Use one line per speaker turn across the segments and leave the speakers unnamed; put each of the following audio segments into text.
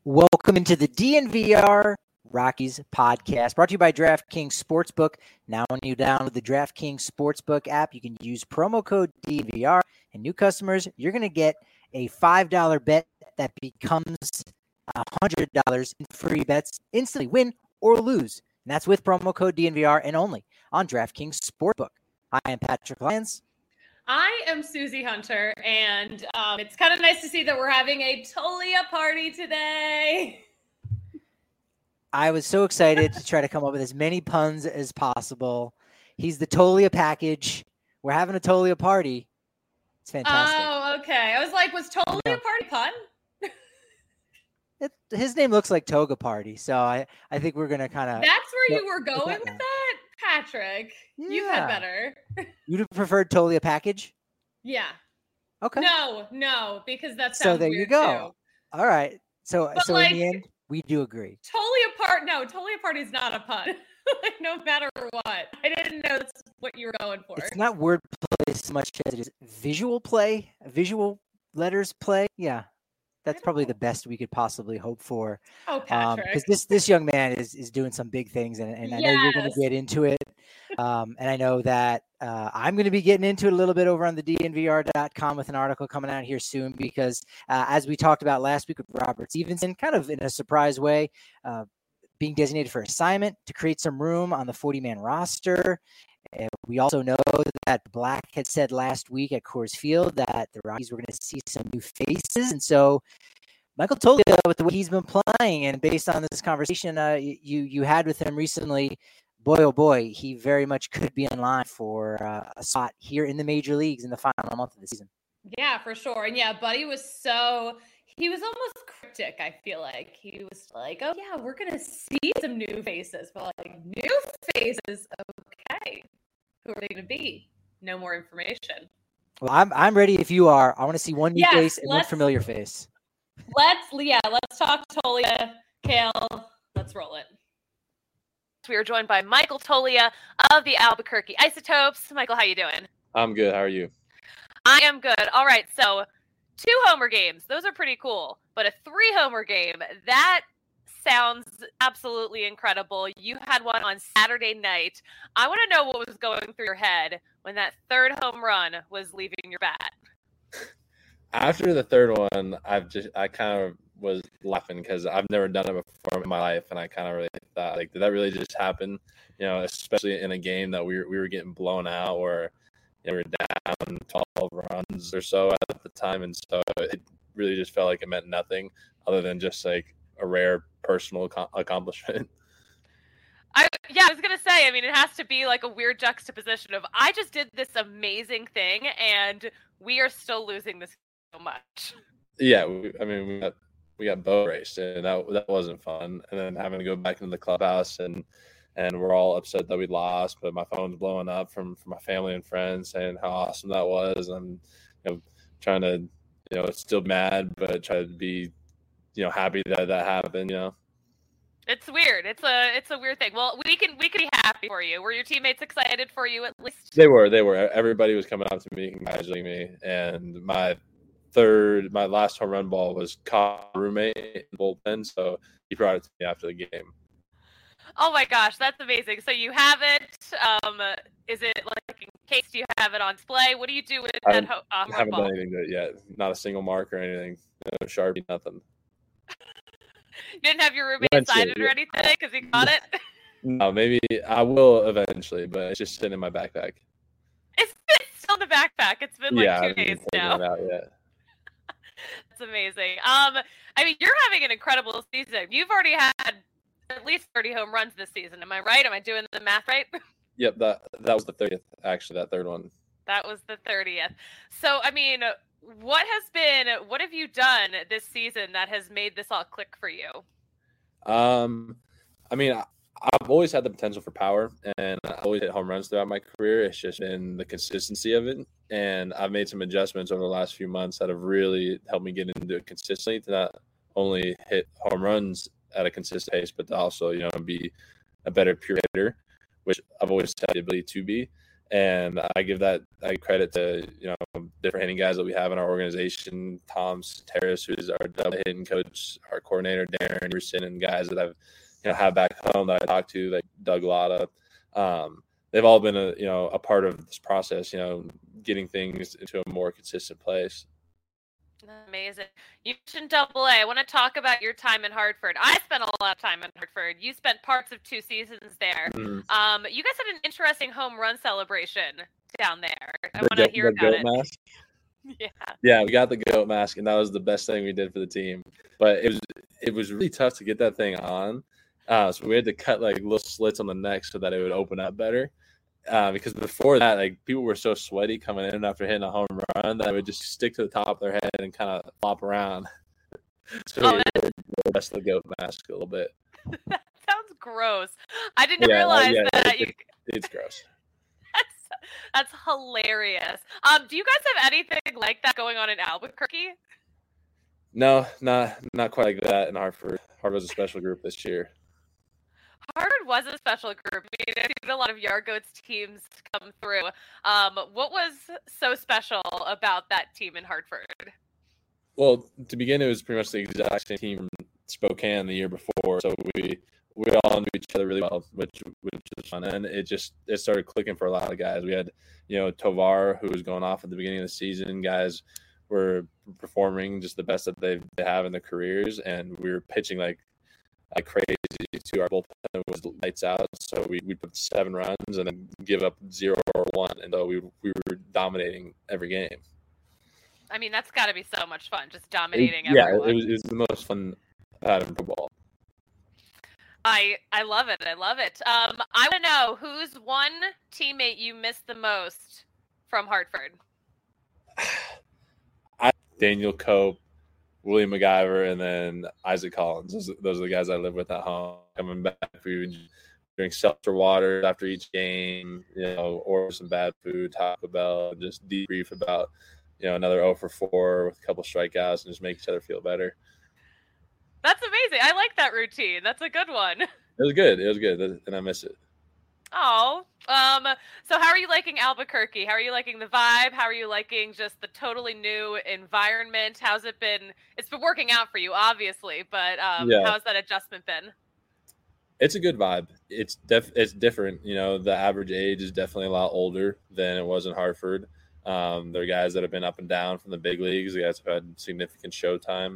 Welcome into the DNVR Rockies podcast, brought to you by DraftKings Sportsbook. Now, when you download the DraftKings Sportsbook app, you can use promo code DNVR, and new customers, you're going to get a $5 bet that becomes $100 in free bets instantly, win or lose. And that's with promo code DNVR and only on DraftKings Sportsbook. I am Patrick Lyons.
I am Susie Hunter, and it's kind of nice to see that we're having a Tolia party today.
I was so excited to try to come up with as many puns as possible. He's the Tolia package. We're having a Tolia party. It's fantastic.
Oh, okay. I was like, was Tolia party pun?
His name looks like Toga Party, so I think we're going to kind of...
That's where you were going with that? Patrick, You've had better.
You'd have preferred Tolia package?
Yeah.
Okay.
No, because that sounds
so there
weird
you go.
Too.
All right. So
like,
in the end, we do agree.
Tolia party is not a pun. Like, no matter what. I didn't know that's what you were going for.
It's not wordplay as much as it is visual play, visual letters play. Yeah. That's probably the best we could possibly hope for.
Oh, Patrick.
Because this young man is doing some big things, and I know you're going to get into it. And I know that I'm going to be getting into it a little bit over on the DNVR.com with an article coming out here soon because as we talked about last week with Robert Stevenson, kind of in a surprise way, being designated for assignment to create some room on the 40-man roster. And we also know that Black had said last week at Coors Field that the Rockies were going to see some new faces. And so Michael Toglia, with the way he's been playing and based on this conversation you had with him recently, boy, oh boy, he very much could be in line for a spot here in the major leagues in the final month of the season.
Yeah, for sure. And yeah, Buddy he was almost cryptic, I feel like. He was like, oh yeah, we're going to see some new faces. But like, new faces? Okay. Who are they going to be? No more information.
Well, I'm ready if you are. I want to see one new face and one familiar face.
Let's talk Tolia. Kale, let's roll it. We are joined by Michael Toglia of the Albuquerque Isotopes. Michael, how you doing?
I'm good. How are you?
I am good. All right, so 2 homer games. Those are pretty cool. But a 3-homer game, that sounds absolutely incredible. You had one on Saturday night. I want to know what was going through your head when that 3rd home run was leaving your bat.
After the 3rd one, I kind of was laughing because I've never done it before in my life, and I kind of really thought, like, did that really just happen? You know, especially in a game that we were getting blown out, or we were down 12 runs or so at the time, and so it really just felt like it meant nothing other than just like a rare personal accomplishment.
I was going to say, I mean, it has to be like a weird juxtaposition of I just did this amazing thing and we are still losing this so much.
Yeah, we got boat raced, and that wasn't fun. And then having to go back into the clubhouse and we're all upset that we lost, but my phone's blowing up from my family and friends saying how awesome that was. I'm trying to still mad, but try to be happy that happened.
It's weird. It's a weird thing. Well, we can be happy for you. Were your teammates excited for you at least?
They were. Everybody was coming up to me congratulating me, and my last home run ball was caught roommate in the bullpen, so he brought it to me after the game.
Oh my gosh, that's amazing. So you have it. Is it like in case? Do you have it on display? What do you do with that home run ball? I haven't
done anything to it yet. Not a single mark or anything. No Sharpie, nothing.
You didn't have your roommate sign it or anything because he got it?
No, maybe I will eventually, but it's just sitting in my backpack.
It's still in the backpack. It's been like 2 days now.
It out yet.
That's amazing. I mean, you're having an incredible season. You've already had at least 30 home runs this season. Am I right? Am I doing the math right?
Yep, that was the 30th, actually, that 3rd one.
That was the 30th. So, I mean, what have you done this season that has made this all click for you?
I mean, I've always had the potential for power, and I always hit home runs throughout my career. It's just been the consistency of it, and I've made some adjustments over the last few months that have really helped me get into it consistently to not only hit home runs at a consistent pace, but to also, be a better pure hitter, which I've always had the ability to be. And I give credit to, different hitting guys that we have in our organization. Tom Terrace, who's our double hitting coach, our coordinator, Darren Anderson, and guys that I've, have back home that I talk to, like Doug Lotta. They've all been a part of this process, getting things into a more consistent place.
Amazing. You mentioned Double A. I want to talk about your time in Hartford. I spent a lot of time in Hartford. You spent parts of 2 seasons there. Mm-hmm. You guys had an interesting home run celebration down there. I want to hear about it.
Mask? Yeah, we got the goat mask, and that was the best thing we did for the team. But it was really tough to get that thing on. So we had to cut like little slits on the neck so that it would open up better. Because before that, like, people were so sweaty coming in after hitting a home run that it would just stick to the top of their head and kind of flop around. So we adjust the goat mask a little bit.
That sounds gross. I didn't realize that.
It's gross.
That's hilarious. Do you guys have anything like that going on in Albuquerque?
No, not quite like that in Hartford. Hartford was a special group this year.
Harvard was a special group. I mean, I've seen a lot of Yard Goats teams come through. What was so special about that team in Hartford?
Well, to begin, it was pretty much the exact same team from Spokane the year before. So we all knew each other really well, which was fun. And it started clicking for a lot of guys. We had, Tovar, who was going off at the beginning of the season. Guys were performing just the best that they have in their careers. And we were pitching like crazy to our bullpen was lights out. So we put 7 runs and then give up 0 or 1. And so we were dominating every game.
I mean, that's got to be so much fun, just dominating everyone.
Yeah, it was the most fun out of football.
I love it. I love it. I want to know, who's one teammate you miss the most from Hartford?
Daniel Cope, William MacGyver, and then Isaac Collins. Those are the guys I live with at home. Coming back, we would drink seltzer water after each game, order some bad food, Taco Bell, just debrief about, another 0 for 4 with a couple strikeouts and just make each other feel better.
That's amazing. I like that routine. That's a good one.
It was good, and I miss it.
Oh, so how are you liking Albuquerque? How are you liking the vibe? How are you liking just the totally new environment? How's it been? It's been working out for you, obviously, but how's that adjustment been?
It's a good vibe. It's different. The average age is definitely a lot older than it was in Hartford. There are guys that have been up and down from the big leagues. The guys have had significant show time.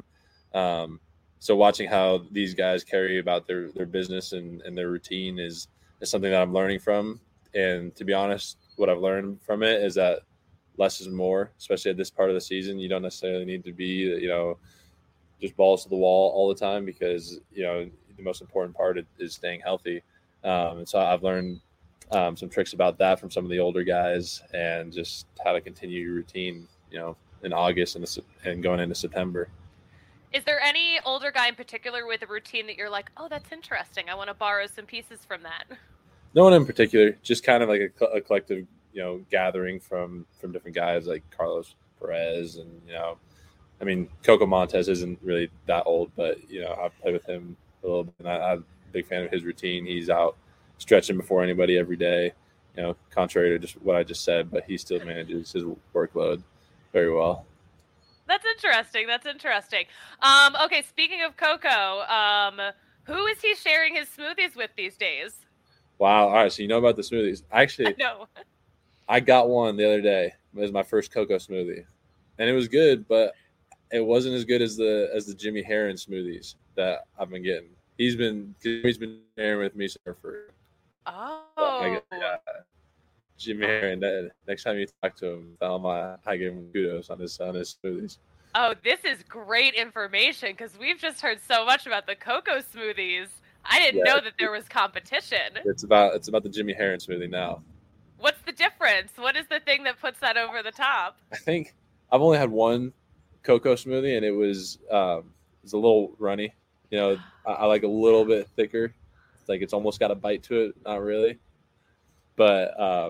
So watching how these guys carry about their business and their routine is something that I'm learning from. And to be honest, what I've learned from it is that less is more, especially at this part of the season. You don't necessarily need to be, just balls to the wall all the time because, the most important part is staying healthy. And so I've learned some tricks about that from some of the older guys and just how to continue your routine, in August and going into September.
Is there any older guy in particular with a routine that you're like, oh, that's interesting, I want to borrow some pieces from that?
No one in particular, just kind of like a collective, gathering from different guys like Carlos Perez and, Coco Montes isn't really that old, but, I've played with him a little bit and I'm a big fan of his routine. He's out stretching before anybody every day, contrary to just what I just said, but he still manages his workload very well.
That's interesting. Okay, speaking of Coco, who is he sharing his smoothies with these days?
Wow. All right, so you know about the smoothies. Actually,
no.
I got one the other day. It was my first Coco smoothie. And it was good, but it wasn't as good as the Jimmy Herron smoothies that I've been getting. He's been sharing with me for.
Oh.
Jimmy Herron. Next time you talk to him, tell him I give him kudos on his smoothies.
Oh, this is great information because we've just heard so much about the Coco smoothies. I didn't know that there was competition.
It's about the Jimmy Herron smoothie now.
What's the difference? What is the thing that puts that over the top?
I think I've only had one Coco smoothie, and it was a little runny. I like a little bit thicker. Like it's almost got a bite to it, not really. But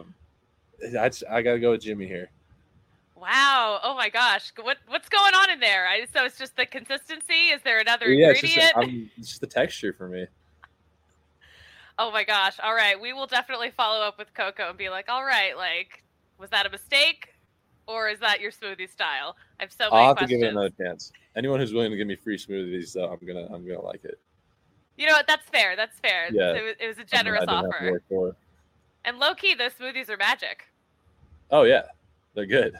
I gotta go with Jimmy here.
Wow! Oh my gosh! What's going on in there? So it's just the consistency. Is there another ingredient?
It's just the texture for me.
Oh my gosh. All right. We will definitely follow up with Coco and be like, all right, like, was that a mistake? Or is that your smoothie style? I have so many
I'll have
questions.
to give it another chance. Anyone who's willing to give me free smoothies, though, I'm gonna like it.
You know what? That's fair. That's fair.
Yeah.
It was a generous
I didn't have to
offer.
work for it.
And low key, those smoothies are magic.
Oh yeah, they're good.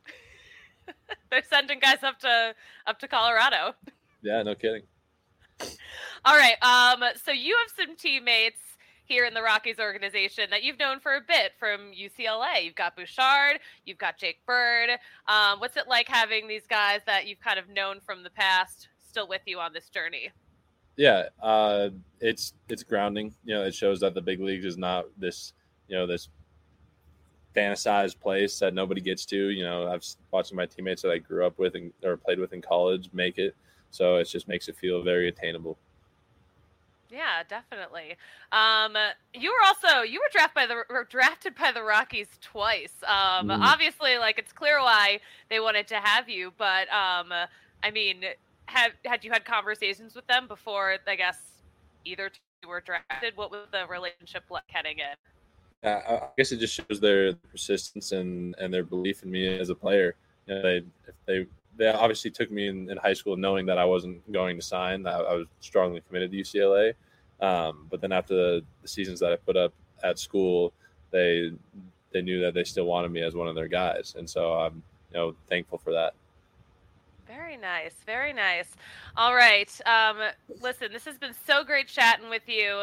They're sending guys up to Colorado.
Yeah, no kidding.
All right. So you have some teammates here in the Rockies organization that you've known for a bit from UCLA. You've got Bouchard, you've got Jake Bird. What's it like having these guys that you've kind of known from the past still with you on this journey?
Yeah, it's grounding. It shows that the big leagues is not this this fantasized place that nobody gets to. I've watching my teammates that I grew up with or played with in college make it, so it just makes it feel very attainable.
Yeah, definitely. You were drafted by the Rockies twice. Obviously, like, it's clear why they wanted to have you, but I mean, had you had conversations with them before? I guess either two were drafted. What was the relationship like heading in?
I guess it just shows their persistence and their belief in me as a player. They obviously took me in high school knowing that I wasn't going to sign. I was strongly committed to UCLA. But then after the seasons that I put up at school, they knew that they still wanted me as one of their guys. And so I'm thankful for that.
Very nice. Very nice. All right. Listen, this has been so great chatting with you.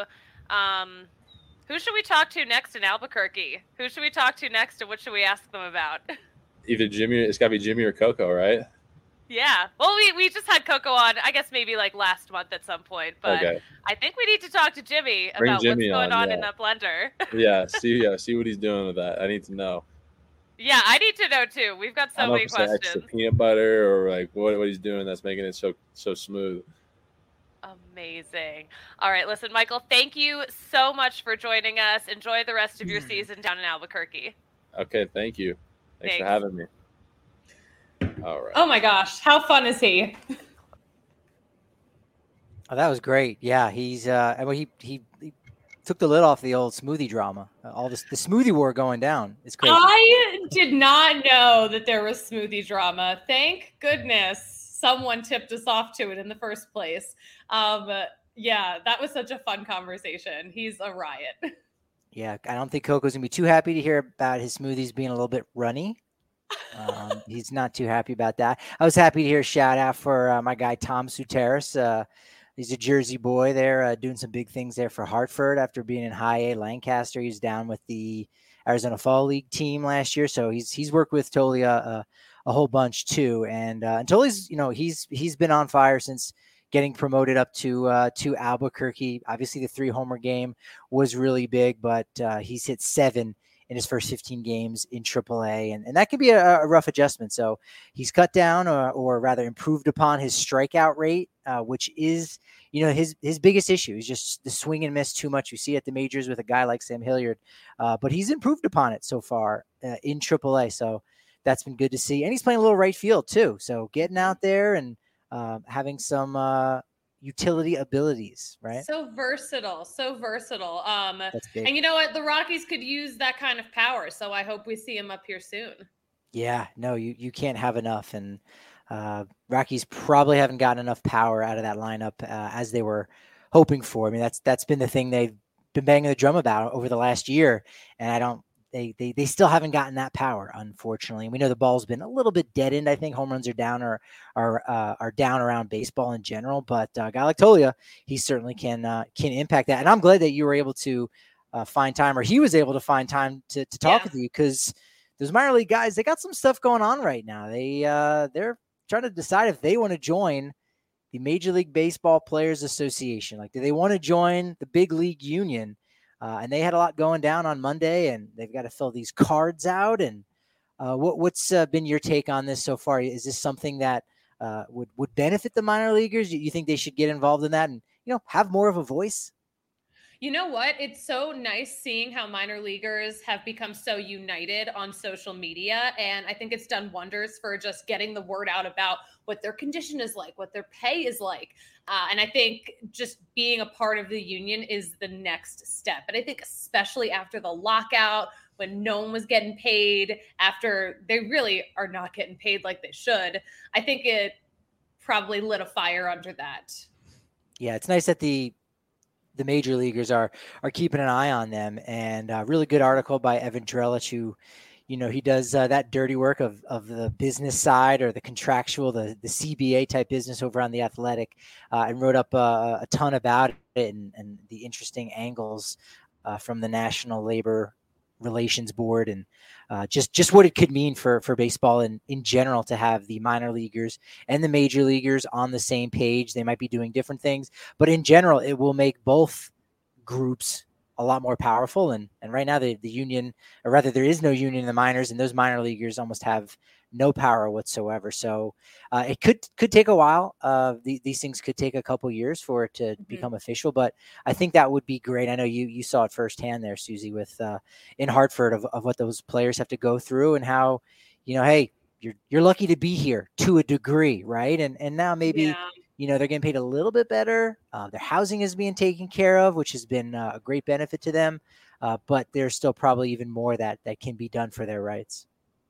Who should we talk to next in Albuquerque? Who should we talk to next, and what should we ask them about?
Either Jimmy, it's got to be Jimmy or Coco, right?
Yeah. Well, we just had Coco on, I guess maybe like last month at some point, but okay. I think we need to talk to Jimmy about what's going on in that blender.
Yeah. See what he's doing with that. I need to know.
Yeah, I need to know too. We've got so many questions. Like extra
peanut butter or like what he's doing that's making it so smooth.
Amazing. All right, listen, Michael, thank you so much for joining us. Enjoy the rest of your season down in Albuquerque.
Okay, thank you. Thanks for having me. All right.
Oh my gosh, how fun is he?
Oh, that was great. Yeah, he's he took the lid off the old smoothie drama. All this, the smoothie war going down. It's crazy.
I did not know that there was smoothie drama. Thank goodness someone tipped us off to it in the first place. Yeah, that was such a fun conversation. He's a riot.
Yeah, I don't think Coco's gonna be too happy to hear about his smoothies being a little bit runny. He's not too happy about that. I was happy to hear a shout out for my guy Tom Suteris. He's a Jersey boy there, doing some big things there for Hartford after being in High A Lancaster. He's down with the Arizona Fall League team last year, so he's worked with Tolia a whole bunch too. And Tolia's, he's been on fire since getting promoted up to Albuquerque. Obviously, the 3-homer game was really big, but he's hit 7 in his first 15 games in AAA, and that can be a rough adjustment. So he's cut down or rather improved upon his strikeout rate, which is, his biggest issue is just the swing and miss too much. You see at the majors with a guy like Sam Hilliard, but he's improved upon it so far in AAA. So that's been good to see. And he's playing a little right field too. So getting out there and having some utility abilities, right?
So versatile. And you know what? The Rockies could use that kind of power. So I hope we see him up here soon.
Yeah, no, you can't have enough. And Rockies probably haven't gotten enough power out of that lineup as they were hoping for. I mean, that's been the thing they've been banging the drum about over the last year. And they still haven't gotten that power, unfortunately. And we know the ball's been a little bit deadened. I think home runs are down or are down around baseball in general. But a guy like Tolia, he certainly can impact that. And I'm glad that you were able to find time, or he was able to find time to talk with you, because those minor league guys, they got some stuff going on right now. They're trying to decide if they want to join the Major League Baseball Players Association. Like, do they want to join the big league union? And they had a lot going down on Monday, and they've got to fill these cards out. And what's been your take on this so far? Is this something that would benefit the minor leaguers? You think they should get involved in that and have more of a voice?
You know what? It's so nice seeing how minor leaguers have become so united on social media. And I think it's done wonders for just getting the word out about what their condition is like, what their pay is like. And I think just being a part of the union is the next step. And I think especially after the lockout, when no one was getting paid, after they really are not getting paid like they should, I think it probably lit a fire under that.
Yeah, it's nice that the major leaguers are keeping an eye on them. And a really good article by Evan Drellich, who, he does that dirty work of the business side or the contractual, the CBA type business over on The Athletic, and wrote up a ton about it and the interesting angles from the National Labor Relations Board and just what it could mean for baseball and in general to have the minor leaguers and the major leaguers on the same page. They might be doing different things, but in general, it will make both groups a lot more powerful. And right now the union, or rather there is no union in the minors, and those minor leaguers almost have no power whatsoever. So it could take a while. These things could take a couple years for it to become official, but I think that would be great. I know you saw it firsthand there, Susie, with in Hartford of what those players have to go through and how, hey, you're lucky to be here to a degree, right? And now maybe they're getting paid a little bit better. Their housing is being taken care of, which has been a great benefit to them. But there's still probably even more that can be done for their rights.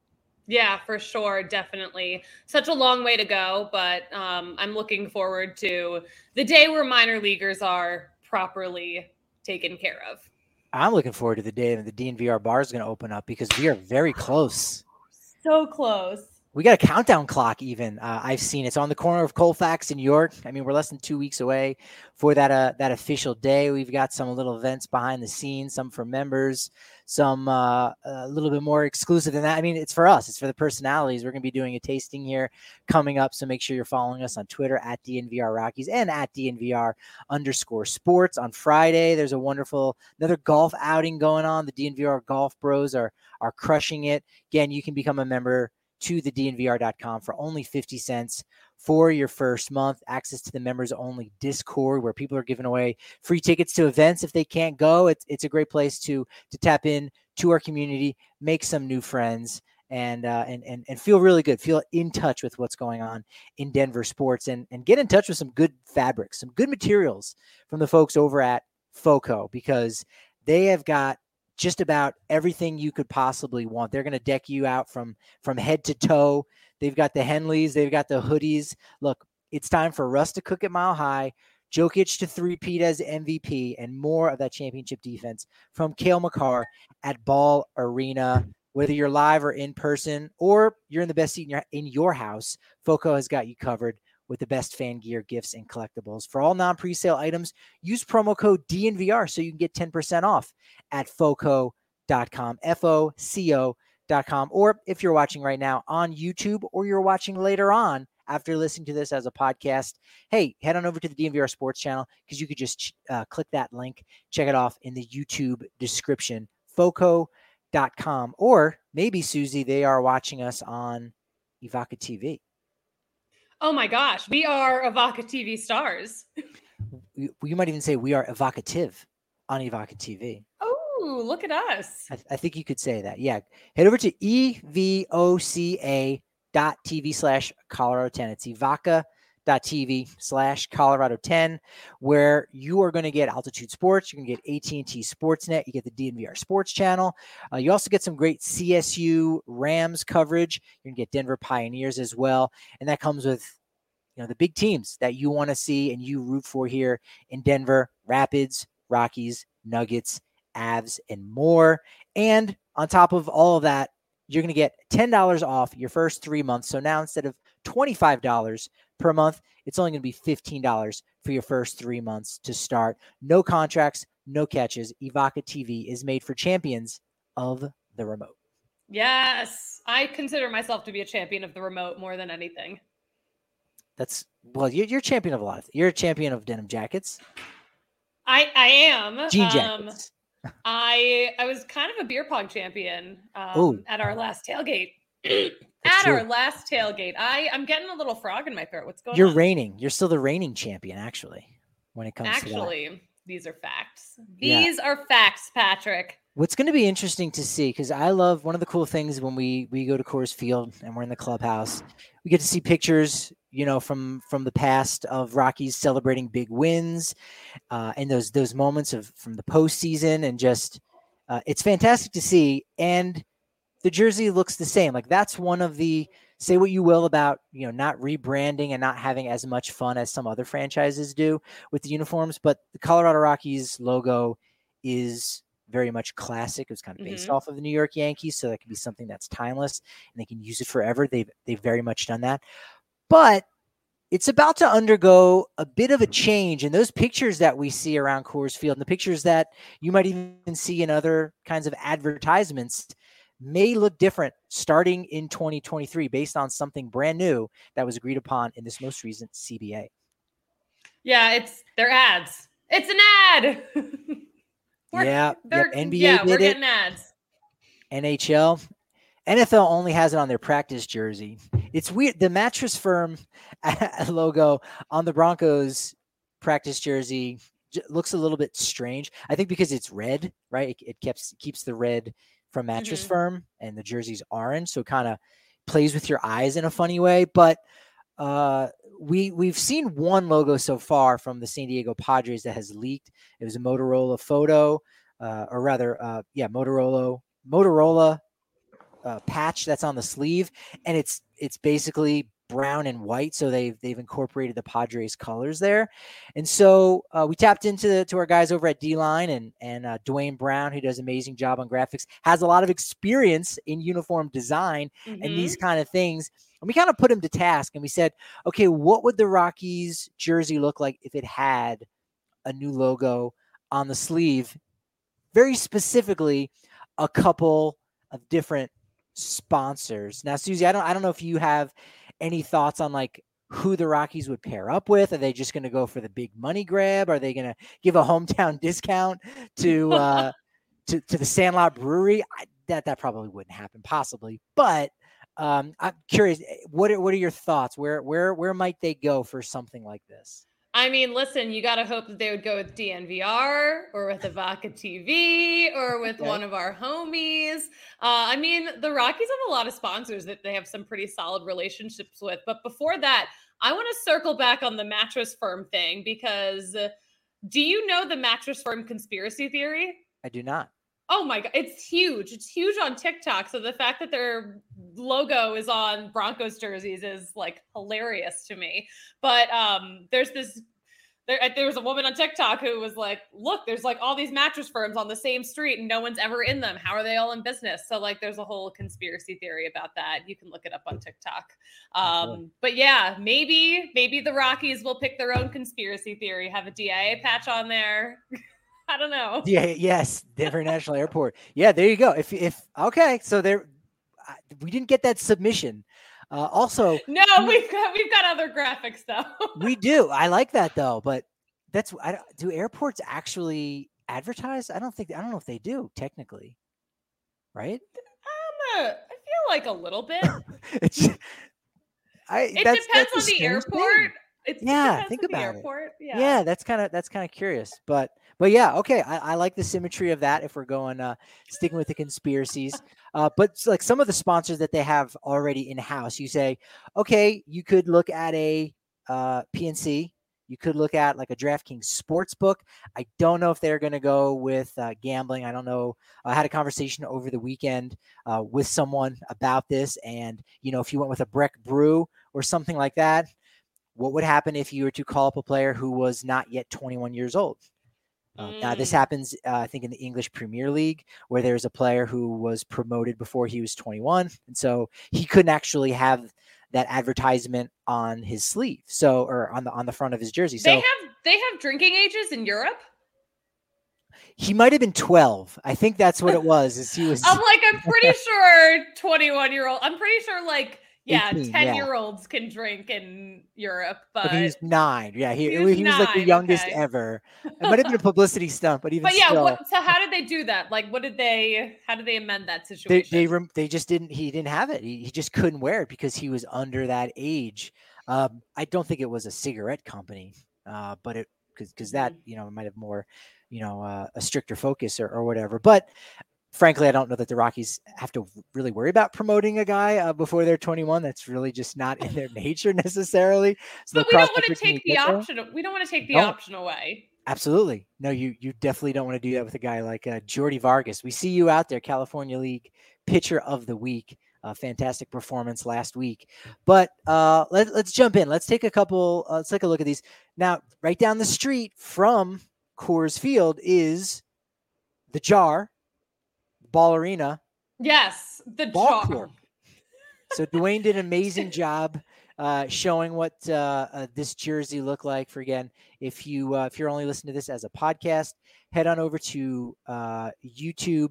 Yeah, for sure. Definitely. Such a long way to go, but I'm looking forward to the day where minor leaguers are properly taken care of.
I'm looking forward to the day that the DNVR bar is going to open up because we are very close.
So close.
We got a countdown clock even. I've seen it's on the corner of Colfax in York. I mean, we're less than 2 weeks away for that official day. We've got some little events behind the scenes, some for members, some a little bit more exclusive than that. I mean, it's for us. It's for the personalities. We're going to be doing a tasting here coming up. So make sure you're following us on Twitter at DNVR Rockies and at DNVR_sports. On Friday, there's another golf outing going on. The DNVR Golf Bros are crushing it. Again, you can become a member to the DNVR.com for only 50 cents for your first month. Access to the members only Discord where people are giving away free tickets to events if they can't go. It's a great place to tap in to our community, make some new friends, and feel really good. Feel in touch with what's going on in Denver sports and get in touch with some good fabrics, some good materials from the folks over at FOCO, because they have got just about everything you could possibly want. They're going to deck you out from head to toe. They've got the Henleys. They've got the hoodies. Look, it's time for Russ to cook at Mile High, Jokic to three-peat as MVP, and more of that championship defense from Cale Makar at Ball Arena. Whether you're live or in person, or you're in the best seat in your house, FOCO has got you covered with the best fan gear, gifts, and collectibles. For all non-presale items, use promo code DNVR so you can get 10% off at FOCO.com, FOCO.com. Or if you're watching right now on YouTube, or you're watching later on after listening to this as a podcast, hey, head on over to the DNVR Sports channel because you could just click that link, check it off in the YouTube description, FOCO.com. Or maybe, Susie, they are watching us on Evoca TV.
Oh my gosh, we are Evoca TV stars.
You might even say we are evocative on Evoca TV.
Oh, look at us.
I think you could say that. Yeah. Head over to evoca.tv/Colorado10. It's evoca.tv/Colorado10, where you are going to get Altitude Sports. You're going to get AT&T Sportsnet. You get the DNVR Sports channel. You also get some great CSU Rams coverage. You're going to get Denver Pioneers as well. And that comes with the big teams that you want to see and you root for here in Denver: Rapids, Rockies, Nuggets, Avs, and more. And on top of all of that, you're going to get $10 off your first 3 months. So now instead of $25 per month, it's only going to be $15 for your first 3 months to start. No contracts, no catches. Evoca TV is made for champions of the remote.
Yes. I consider myself to be a champion of the remote more than anything.
You're a champion of a lot. You're a champion of denim jackets.
I am.
Jean jackets.
I was kind of a beer pong champion at our last tailgate. Our last tailgate. I'm getting a little frog in my throat. What's going on?
You're still the reigning champion, actually, when it comes to that.
These are facts.
Yeah.
These are facts, Patrick.
What's going to be interesting to see, because I love one of the cool things when we go to Coors Field and we're in the clubhouse, we get to see pictures, from the past of Rockies celebrating big wins, and those moments from the postseason, and just it's fantastic to see. And the jersey looks the same. Like, that's one of the, say what you will about, not rebranding and not having as much fun as some other franchises do with the uniforms, but the Colorado Rockies logo is very much classic. It was kind of based off of the New York Yankees, so that could be something that's timeless and they can use it forever. They've very much done that. But it's about to undergo a bit of a change, and those pictures that we see around Coors Field and the pictures that you might even see in other kinds of advertisements may look different starting in 2023 based on something brand new that was agreed upon in this most recent CBA.
Yeah, they're ads. It's an ad.
NBA
we're getting ads.
NHL. NFL only has it on their practice jersey. It's weird. The Mattress Firm logo on the Broncos practice jersey looks a little bit strange. I think because it's red, right? It keeps the red from Mattress Firm, and the jersey's orange, so it kind of plays with your eyes in a funny way. But we've seen one logo so far from the San Diego Padres that has leaked. It was a Motorola photo, Motorola patch that's on the sleeve, and it's basically brown and white, so they've incorporated the Padres colors there. And so we tapped to our guys over at D-Line, and Dwayne Brown, who does an amazing job on graphics, has a lot of experience in uniform design and these kind of things. And we kind of put him to task, and we said, okay, what would the Rockies jersey look like if it had a new logo on the sleeve? Very specifically, a couple of different sponsors. Now, Susie, I don't know if you have any thoughts on like who the Rockies would pair up with. Are they just going to go for the big money grab? Are they going to give a hometown discount to the Sandlot Brewery? That probably wouldn't happen, possibly. But I'm curious, what are your thoughts? Where might they go for something like this?
I mean, listen, you got to hope that they would go with DNVR or with Avaca TV or with one of our homies. I mean, the Rockies have a lot of sponsors that they have some pretty solid relationships with. But before that, I want to circle back on the Mattress Firm thing, because do you know the Mattress Firm conspiracy theory?
I do not.
Oh my God, it's huge. It's huge on TikTok. So the fact that their logo is on Broncos jerseys is like hilarious to me. But there was a woman on TikTok who was like, look, there's like all these mattress firms on the same street and no one's ever in them. How are they all in business? So like there's a whole conspiracy theory about that. You can look it up on TikTok. But yeah, maybe the Rockies will pick their own conspiracy theory, have a DIA patch on there. I don't know.
Yeah. Yes. Denver National Airport. Yeah. There you go. If okay. So we didn't get that submission. Also,
no, we've got other graphics though.
We do. I like that though, but do airports actually advertise? I don't know if they do technically. Right?
I feel like a little bit.
It
depends on the airport.
Think about it. Yeah, that's kind of curious, but yeah, okay. I like the symmetry of that if we're going sticking with the conspiracies. But like some of the sponsors that they have already in house, you say, okay, you could look at a PNC. You could look at like a DraftKings Sportsbook. I don't know if they're going to go with gambling. I don't know. I had a conversation over the weekend with someone about this, and if you went with a Breck Brew or something like that, what would happen if you were to call up a player who was not yet 21 years old? Now, this happens, I think, in the English Premier League, where there's a player who was promoted before he was 21. And so he couldn't actually have that advertisement on his sleeve, or on the front of his jersey. So
they have drinking ages in Europe?
He might have been 12. I think that's what it was.
I'm pretty sure 21-year-old. I'm pretty sure
18,
10-year-olds can drink in Europe, but
he was 9. Yeah, he was like the youngest ever. It might have been a publicity stunt, but still.
So how did they do that? How did they amend that situation?
They just didn't. He didn't have it. He just couldn't wear it because he was under that age. I don't think it was a cigarette company, but it because that, might have more, a stricter focus or whatever. But frankly, I don't know that the Rockies have to really worry about promoting a guy before they're 21. That's really just not in their nature necessarily. So
but we don't want to take the option. We don't want to take the option away.
Absolutely. No, you definitely don't want to do that with a guy like Jordy Vargas. We see you out there, California League Pitcher of the Week. Fantastic performance last week. But let's jump in. Let's take a look at these. Now, right down the street from Coors Field is the Jar, Ball Arena.
Yes, the Jar.
Court. So Dwayne did an amazing job showing what this jersey looked like. For again, if you're only listening to this as a podcast, head on over to YouTube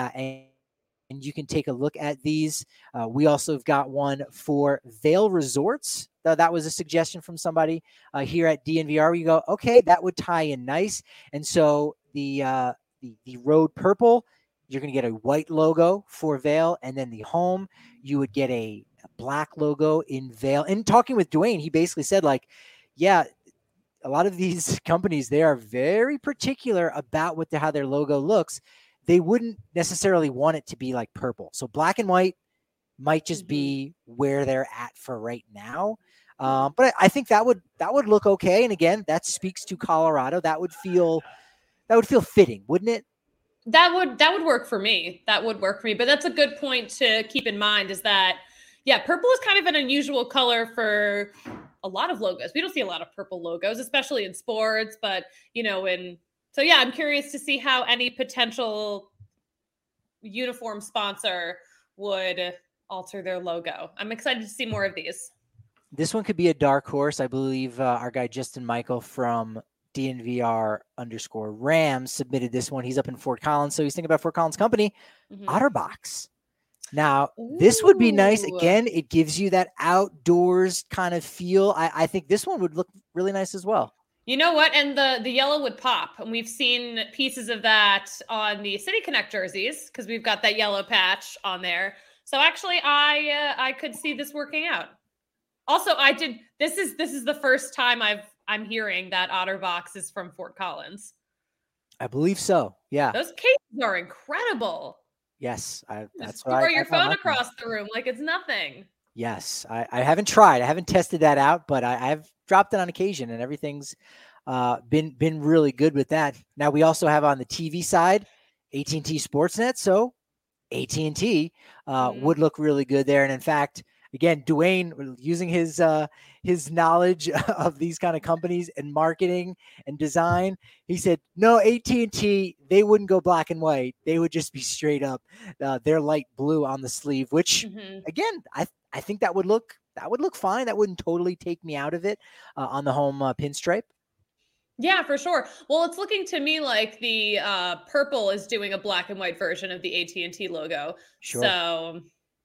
and you can take a look at these. We also have got one for Vail Resorts. That was a suggestion from somebody here at DNVR. We go, okay, that would tie in nice. And so the road purple, you're going to get a white logo for Vail, and then the home, you would get a black logo in Vail. And talking with Dwayne, he basically said, like, yeah, a lot of these companies, they are very particular about how their logo looks. They wouldn't necessarily want it to be like purple. So black and white might just be where they're at for right now. But I think that would look okay. And again, that speaks to Colorado. That would feel fitting, wouldn't it?
That would work for me. That would work for me. But that's a good point to keep in mind is that, yeah, purple is kind of an unusual color for a lot of logos. We don't see a lot of purple logos, especially in sports, but so yeah, I'm curious to see how any potential uniform sponsor would alter their logo. I'm excited to see more of these.
This one could be a dark horse. I believe our guy Justin Michael from DNVR_Rams submitted this one. He's up in Fort Collins, so he's thinking about Fort Collins company, Otterbox. Now, this would be nice. Again, it gives you that outdoors kind of feel. I think this one would look really nice as well.
You know what? And the yellow would pop. And we've seen pieces of that on the City Connect jerseys because we've got that yellow patch on there. So actually, I could see this working out. Also, this is the first time I'm hearing that Otterbox is from Fort Collins.
I believe so. Yeah.
Those cases are incredible.
Yes. That's
why. Throw your phone across the room like it's nothing.
Yes. I haven't tried. I haven't tested that out, but I've dropped it on occasion and everything's been really good with that. Now we also have on the TV side, AT&T Sportsnet. So AT&T would look really good there. And in fact, again, Dwayne using his knowledge of these kind of companies and marketing and design, he said, no, AT&T, they wouldn't go black and white. They would just be straight up their light blue on the sleeve, which again, I think that would look fine. That wouldn't totally take me out of it on the home pinstripe.
Yeah, for sure. Well, it's looking to me like the purple is doing a black and white version of the AT&T logo.
Sure.
So,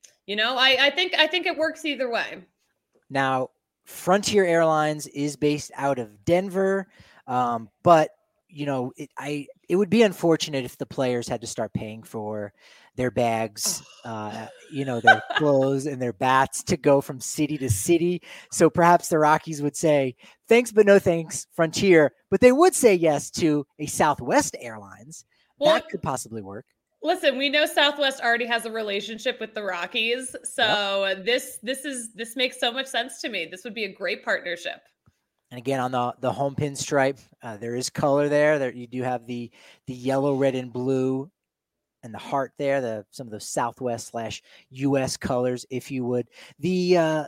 I think it works either way.
Now, Frontier Airlines is based out of Denver, but it would be unfortunate if the players had to start paying for their bags, their clothes and their bats to go from city to city. So perhaps the Rockies would say, thanks, but no thanks, Frontier. But they would say yes to a Southwest Airlines. Well, that could possibly work.
Listen, we know Southwest already has a relationship with the Rockies. So this makes so much sense to me. This would be a great partnership.
And again, on the home pinstripe, there is color there. There you do have the yellow, red, and blue, and the heart there. Some of those Southwest/US colors, if you would. The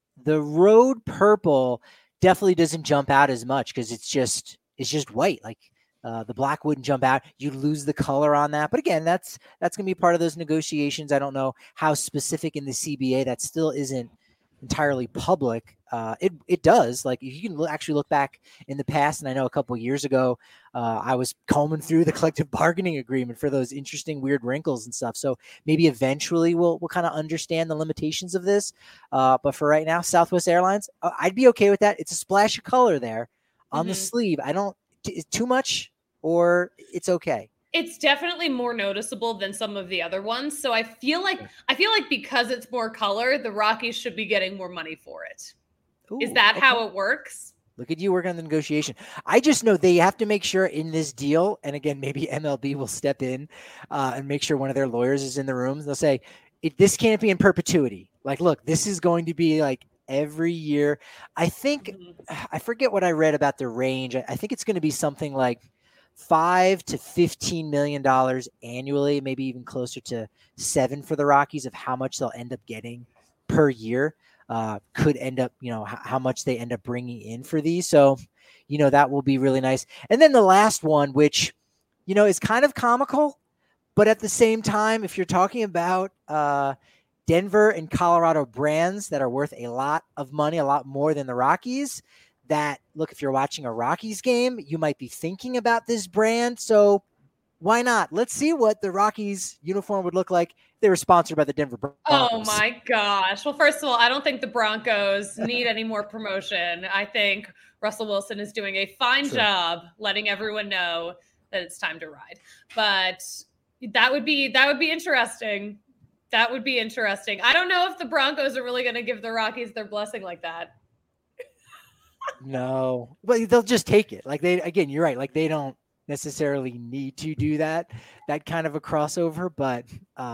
road purple definitely doesn't jump out as much because it's just white. Like the black wouldn't jump out. You lose the color on that. But again, that's going to be part of those negotiations. I don't know how specific in the CBA that still isn't entirely public. It does. Like you can actually look back in the past, and I know a couple of years ago, I was combing through the collective bargaining agreement for those interesting weird wrinkles and stuff. So maybe eventually we'll kind of understand the limitations of this. But for right now, Southwest Airlines, I'd be okay with that. It's a splash of color there on the sleeve. It's too much, or it's okay.
It's definitely more noticeable than some of the other ones. So I feel like because it's more color, the Rockies should be getting more money for it. Ooh, is that how it works?
Look at you working on the negotiation. I just know they have to make sure in this deal, and again, maybe MLB will step in and make sure one of their lawyers is in the room. They'll say, this can't be in perpetuity. Like, look, this is going to be like every year. I think, I forget what I read about the range. I think it's going to be something like $5 to $15 million annually, maybe even closer to $7 million for the Rockies of how much they'll end up getting per year. Could end up, how much they end up bringing in for these. So, that will be really nice. And then the last one, which, is kind of comical, but at the same time, if you're talking about Denver and Colorado brands that are worth a lot of money, a lot more than the Rockies, that look, if you're watching a Rockies game, you might be thinking about this brand. So why not? Let's see what the Rockies uniform would look like. They were sponsored by the Denver Broncos.
Oh my gosh. Well, first of all, I don't think the Broncos need any more promotion. I think Russell Wilson is doing a fine job letting everyone know that it's time to ride. But that would be interesting. That would be interesting. I don't know if the Broncos are really going to give the Rockies their blessing like that.
No, but they'll just take it. Like you're right. Like they don't necessarily need to do that kind of a crossover, but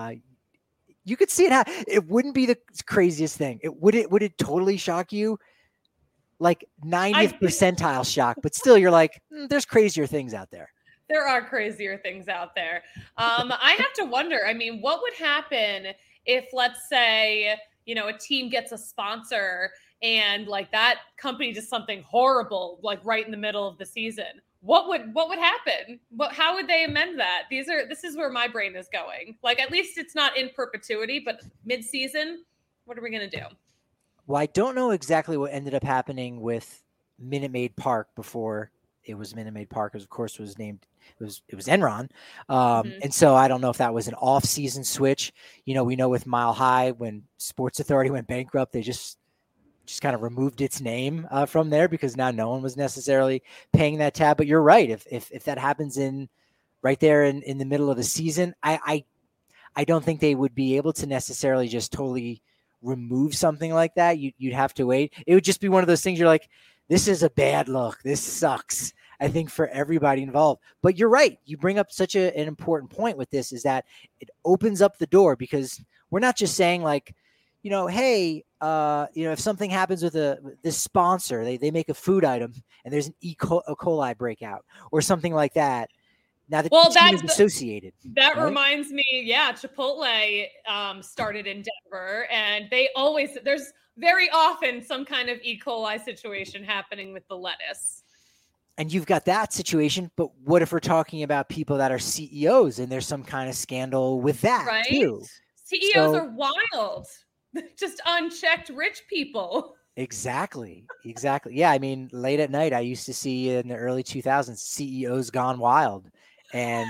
you could see it happen. It wouldn't be the craziest thing. Would it totally shock you? Like 90th percentile shock, but still you're like, there's crazier things out there.
There are crazier things out there. I have to wonder, what would happen if, let's say, a team gets a sponsor and like that company does something horrible, like right in the middle of the season? What would happen? How would they amend that? This is where my brain is going. Like, at least it's not in perpetuity, but mid-season, what are we going to do?
Well, I don't know exactly what ended up happening with Minute Maid Park before it was Minute Maid Park, of course, was named. It was Enron, and so I don't know if that was an off-season switch. We know with Mile High, when Sports Authority went bankrupt, they just kind of removed its name from there because now no one was necessarily paying that tab. But you're right. If that happens right there in the middle of the season, I don't think they would be able to necessarily just totally remove something like that. You'd have to wait. It would just be one of those things you're like, this is a bad look. This sucks, I think, for everybody involved. But you're right. You bring up such an important point with this, is that it opens up the door, because we're not just saying like, hey, if something happens with this sponsor, they make a food item and there's an E. coli breakout or something like that. Now the team is associated.
That right? Reminds me, Chipotle started in Denver, and there's very often some kind of E. coli situation happening with the lettuce.
And you've got that situation, but what if we're talking about people that are CEOs and there's some kind of scandal with that
right?
too?
CEOs are wild. Just unchecked rich people.
Exactly. Yeah. Late at night, I used to see in the early 2000s, CEOs gone wild, and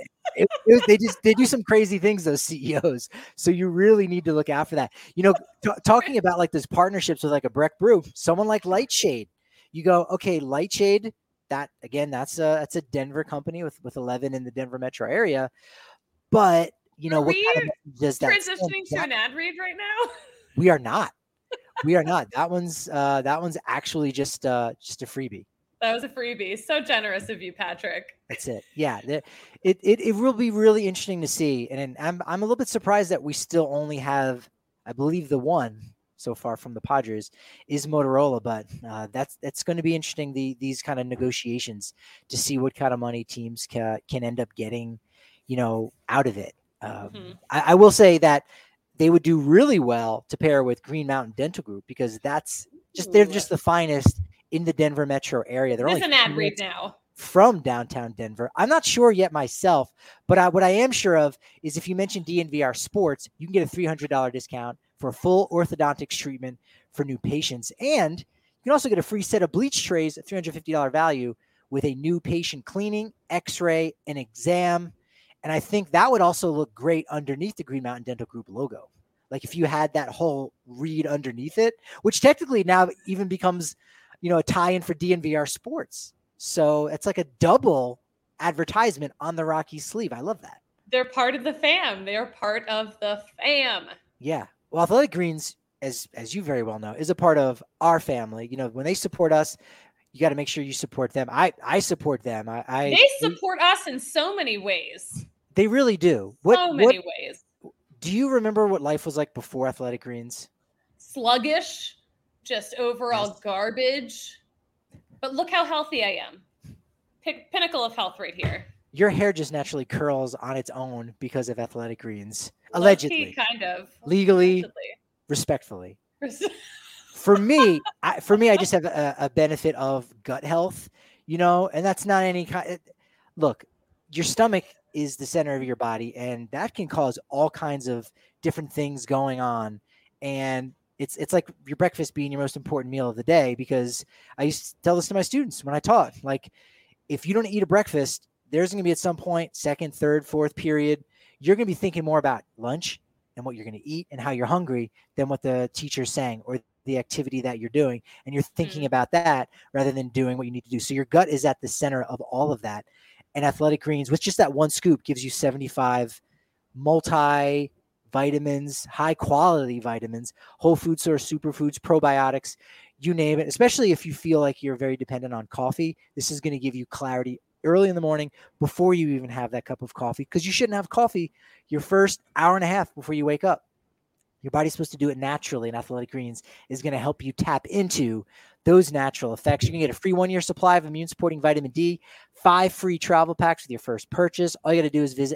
they do some crazy things, those CEOs. So you really need to look out for that. Talking about like those partnerships with like a Breck Brew, someone like Lightshade, you go, okay, Lightshade, that again, that's a Denver company with 11 in the Denver metro area, but what kind of does that
transitioning to an ad read right now?
We are not. That one's actually just a freebie.
That was a freebie. So generous of you, Patrick.
That's it. Yeah. It will be really interesting to see. And I'm a little bit surprised that we still only have, I believe, the one so far from the Padres is Motorola, but that's going to be interesting. These kind of negotiations to see what kind of money teams can end up getting, out of it. I will say that they would do really well to pair with Green Mountain Dental Group, because they're just the finest in the Denver metro area. They're only
an ad read now
from downtown Denver. I'm not sure yet myself, but what I am sure of is if you mention DNVR Sports, you can get a $300 discount for a full orthodontics treatment for new patients. And you can also get a free set of bleach trays at $350 value with a new patient cleaning, x-ray, and exam. And I think that would also look great underneath the Green Mountain Dental Group logo. Like if you had that whole read underneath it, which technically now even becomes, a tie-in for DNVR Sports. So it's like a double advertisement on the Rockies sleeve. I love that.
They're part of the fam. They're part of the fam.
Yeah. Well, Athletic Greens, as you very well know, is a part of our family. When they support us, you got to make sure you support them. I support them.
They support us in so many ways.
They really do.
So many ways.
Do you remember what life was like before Athletic Greens?
Sluggish, just overall garbage. But look how healthy I am. Pinnacle of health right here.
Your hair just naturally curls on its own because of Athletic Greens. Allegedly.
Kind of.
Legally, allegedly. Respectfully. For me, I just have a benefit of gut health, and that's not any kind. Look, your stomach is the center of your body, and that can cause all kinds of different things going on. And it's like your breakfast being your most important meal of the day, because I used to tell this to my students when I taught, like, if you don't eat a breakfast, there's going to be at some point, second, third, fourth period, you're going to be thinking more about lunch and what you're going to eat and how you're hungry than what the teacher's saying or the activity that you're doing. And you're thinking about that rather than doing what you need to do. So your gut is at the center of all of that. And Athletic Greens, with just that one scoop, gives you 75 multi-vitamins, high-quality vitamins, whole food source, superfoods, probiotics, you name it. Especially if you feel like you're very dependent on coffee, this is going to give you clarity early in the morning before you even have that cup of coffee, because you shouldn't have coffee your first hour and a half before you wake up. Your body's supposed to do it naturally, and Athletic Greens is going to help you tap into those natural effects. You can get a free 1-year supply of immune-supporting vitamin D, 5 free travel packs with your first purchase. All you got to do is visit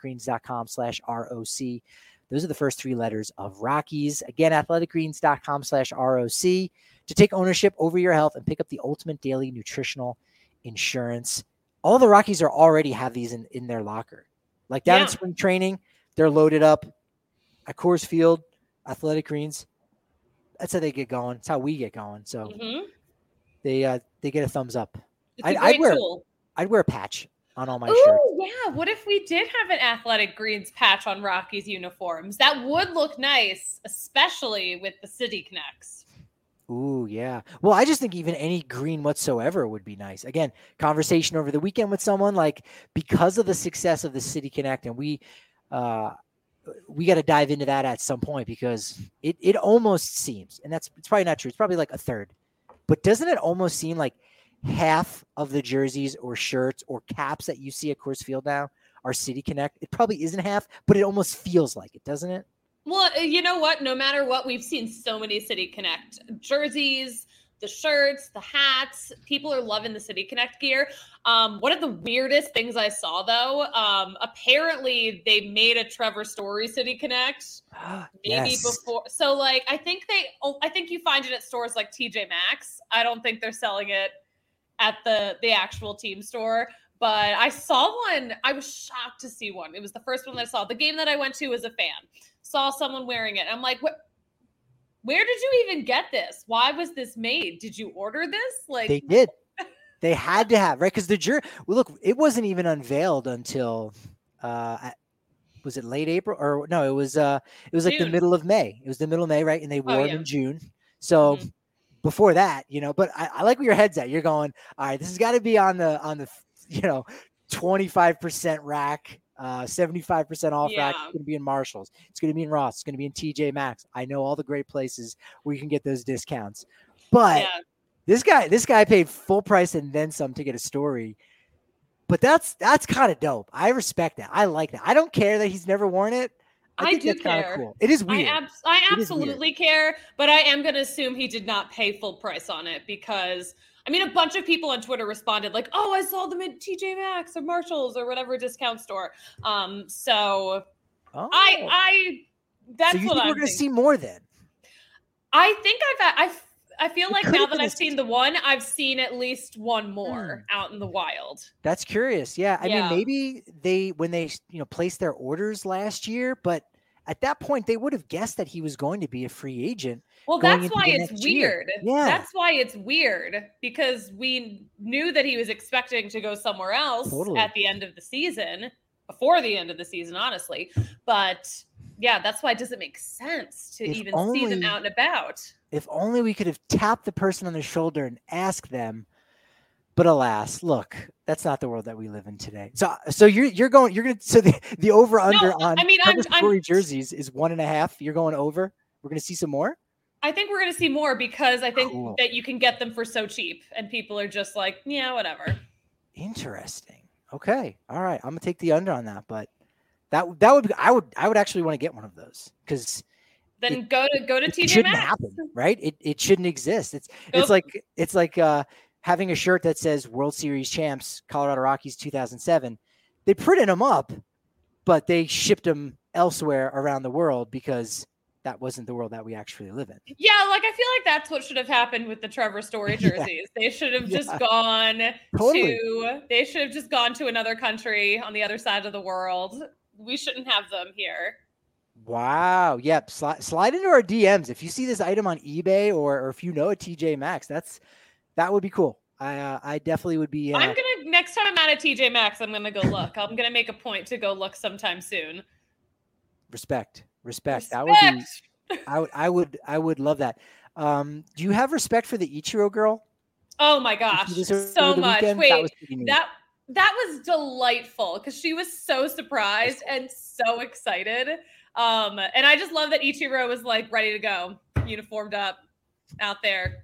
athleticgreens.com/ROC. Those are the first 3 letters of Rockies. Again, athleticgreens.com/ROC to take ownership over your health and pick up the ultimate daily nutritional insurance. All the Rockies already have these in their locker. Like down in spring training, they're loaded up at Coors Field. Athletic Greens, that's how they get going. That's how we get going. So they get a thumbs up. I'd wear a patch on all my shirts.
Yeah. What if we did have an Athletic Greens patch on Rockies uniforms? That would look nice, especially with the City Connects.
Ooh, yeah. Well, I just think even any green whatsoever would be nice. Again, conversation over the weekend with someone, like, because of the success of the City Connect, and we got to dive into that at some point, because it almost seems, and it's probably not true, it's probably like a third, but doesn't it almost seem like half of the jerseys or shirts or caps that you see at Coors Field now are City Connect? It probably isn't half, but it almost feels like it, doesn't it?
Well, you know what? No matter what, we've seen so many City Connect jerseys, the shirts, the hats. People are loving the City Connect gear. One of the weirdest things I saw, though, apparently they made a Trevor Story City Connect maybe before. So, like, I think you find it at stores like TJ Maxx. I don't think they're selling it at the actual team store. But I saw one. I was shocked to see one. It was the first one that I saw. The game that I went to as a fan. Saw someone wearing it. I'm like, what? Where did you even get this? Why was this made? Did you order this? Like,
they did. They had to have, right? Because look, it wasn't even unveiled until was it late April, or no? It was like June. The middle of May. It was the middle of May, right? And they wore it in June. So before that, but I like where your head's at. You're going, all right, this has got to be on the 25% rack. 75% off rack. It's going to be in Marshalls. It's going to be in Ross. It's going to be in TJ Maxx. I know all the great places where you can get those discounts. But this guy paid full price and then some to get a story. But that's kind of dope. I respect that. I like that. I don't care that he's never worn it. I think that's kind of cool. It is weird.
I absolutely care, but I am going to assume he did not pay full price on it, because a bunch of people on Twitter responded like, "Oh, I saw them at TJ Maxx or Marshalls or whatever discount store." That's
so
what
we're going to see more then.
I think I feel like now that I've seen the one, I've seen at least one more out in the wild.
That's curious. Yeah. I mean, maybe when they placed their orders last year, but at that point they would have guessed that he was going to be a free agent.
Well, that's why it's weird. Yeah. That's why it's weird, because we knew that he was expecting to go somewhere else at the end of the season, before the end of the season, honestly. But yeah, that's why it doesn't make sense to see them out and about.
If only we could have tapped the person on the shoulder and asked them. But alas, look, that's not the world that we live in today. So you're going to the over under on Trevor Story jerseys is 1.5. You're going over. We're going to see some more.
I think we're going to see more because I think
Cool.
that you can get them for so cheap and people are just like, yeah, whatever.
Interesting. Okay. All right. I'm gonna take the under on that, but that would be, I would actually want to get one of those because
then go to TJ
it shouldn't
Maxx.
happen, right? It shouldn't exist. It's like having a shirt that says World Series champs Colorado Rockies 2007. They printed them up, but they shipped them elsewhere around the world because that wasn't the world that we actually live in.
Yeah, like I feel like that's what should have happened with the Trevor Story jerseys. They should have just gone they should have just gone to another country on the other side of the world. We shouldn't have them here.
Wow. Yep. Slide into our DMs if you see this item on eBay or if you know a TJ Maxx. That would be cool. I definitely would be.
I'm gonna next time I'm at a TJ Maxx, I'm gonna go look. I'm gonna make a point to go look sometime soon.
Respect. That would be. I would love that. Do you have respect for the Ichiro girl?
Oh my gosh, so much.
Weekend?
Wait, that was delightful because she was so surprised and so excited. And I just love that Ichiro was like ready to go, uniformed up, out there.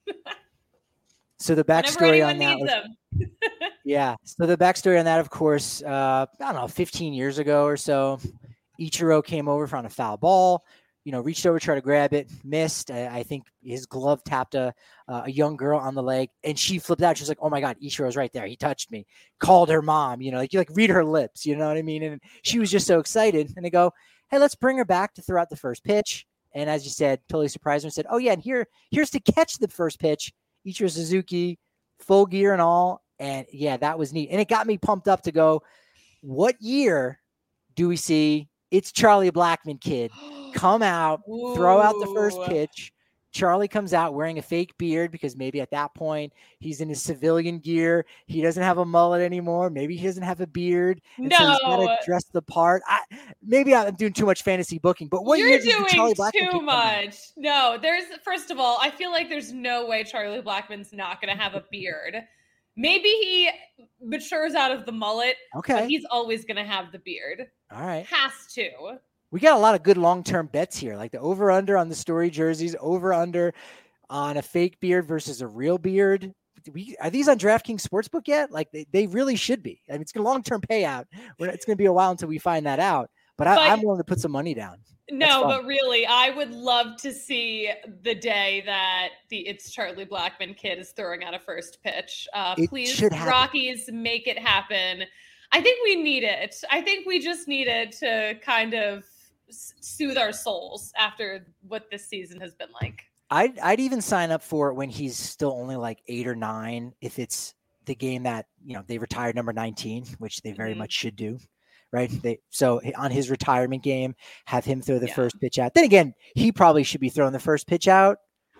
So the backstory on that was, yeah. So the backstory on that, of course, I don't know, 15 years ago or so, Ichiro came over on a foul ball, reached over, tried to grab it, missed. I think his glove tapped a young girl on the leg, and she flipped out. She was like, "Oh my God, Ichiro's right there. He touched me." Called her mom, you read her lips, you know what I mean? And she was just so excited. And they go, "Hey, let's bring her back to throw out the first pitch." And as you said, totally surprised her and said, "Oh yeah, and here's to catch the first pitch." Ichiro Suzuki, full gear and all. And yeah, that was neat. And it got me pumped up to go, what year do we see It's Charlie Blackmon kid come out, throw out the first pitch? Charlie comes out wearing a fake beard because maybe at that point he's in his civilian gear. He doesn't have a mullet anymore. Maybe he doesn't have a beard. And so he's got to dress the part. Maybe I'm doing too much fantasy booking, but what year does Charlie Blackmon
too much? No, first of all, I feel like there's no way Charlie Blackmon's not going to have a beard. Maybe he matures out of the mullet.
Okay.
But he's always going to have the beard.
All right.
Has to.
We got a lot of good long-term bets here, like the over-under on the Story jerseys, over-under on a fake beard versus a real beard. Are these on DraftKings Sportsbook yet? Like they really should be. I mean, it's a long-term payout. It's going to be a while until we find that out. But I'm willing to put some money down.
No, but really, I would love to see the day that the It's Charlie Blackmon kid is throwing out a first pitch. Please, Rockies, make it happen. I think we need it. I think we just need it to kind of soothe our souls after what this season has been like.
I'd even sign up for it when he's still only like 8 or 9, if it's the game that they retired number 19, which they very much should do, right? So on his retirement game, have him throw the first pitch out. Then again, he probably should be throwing the first pitch out,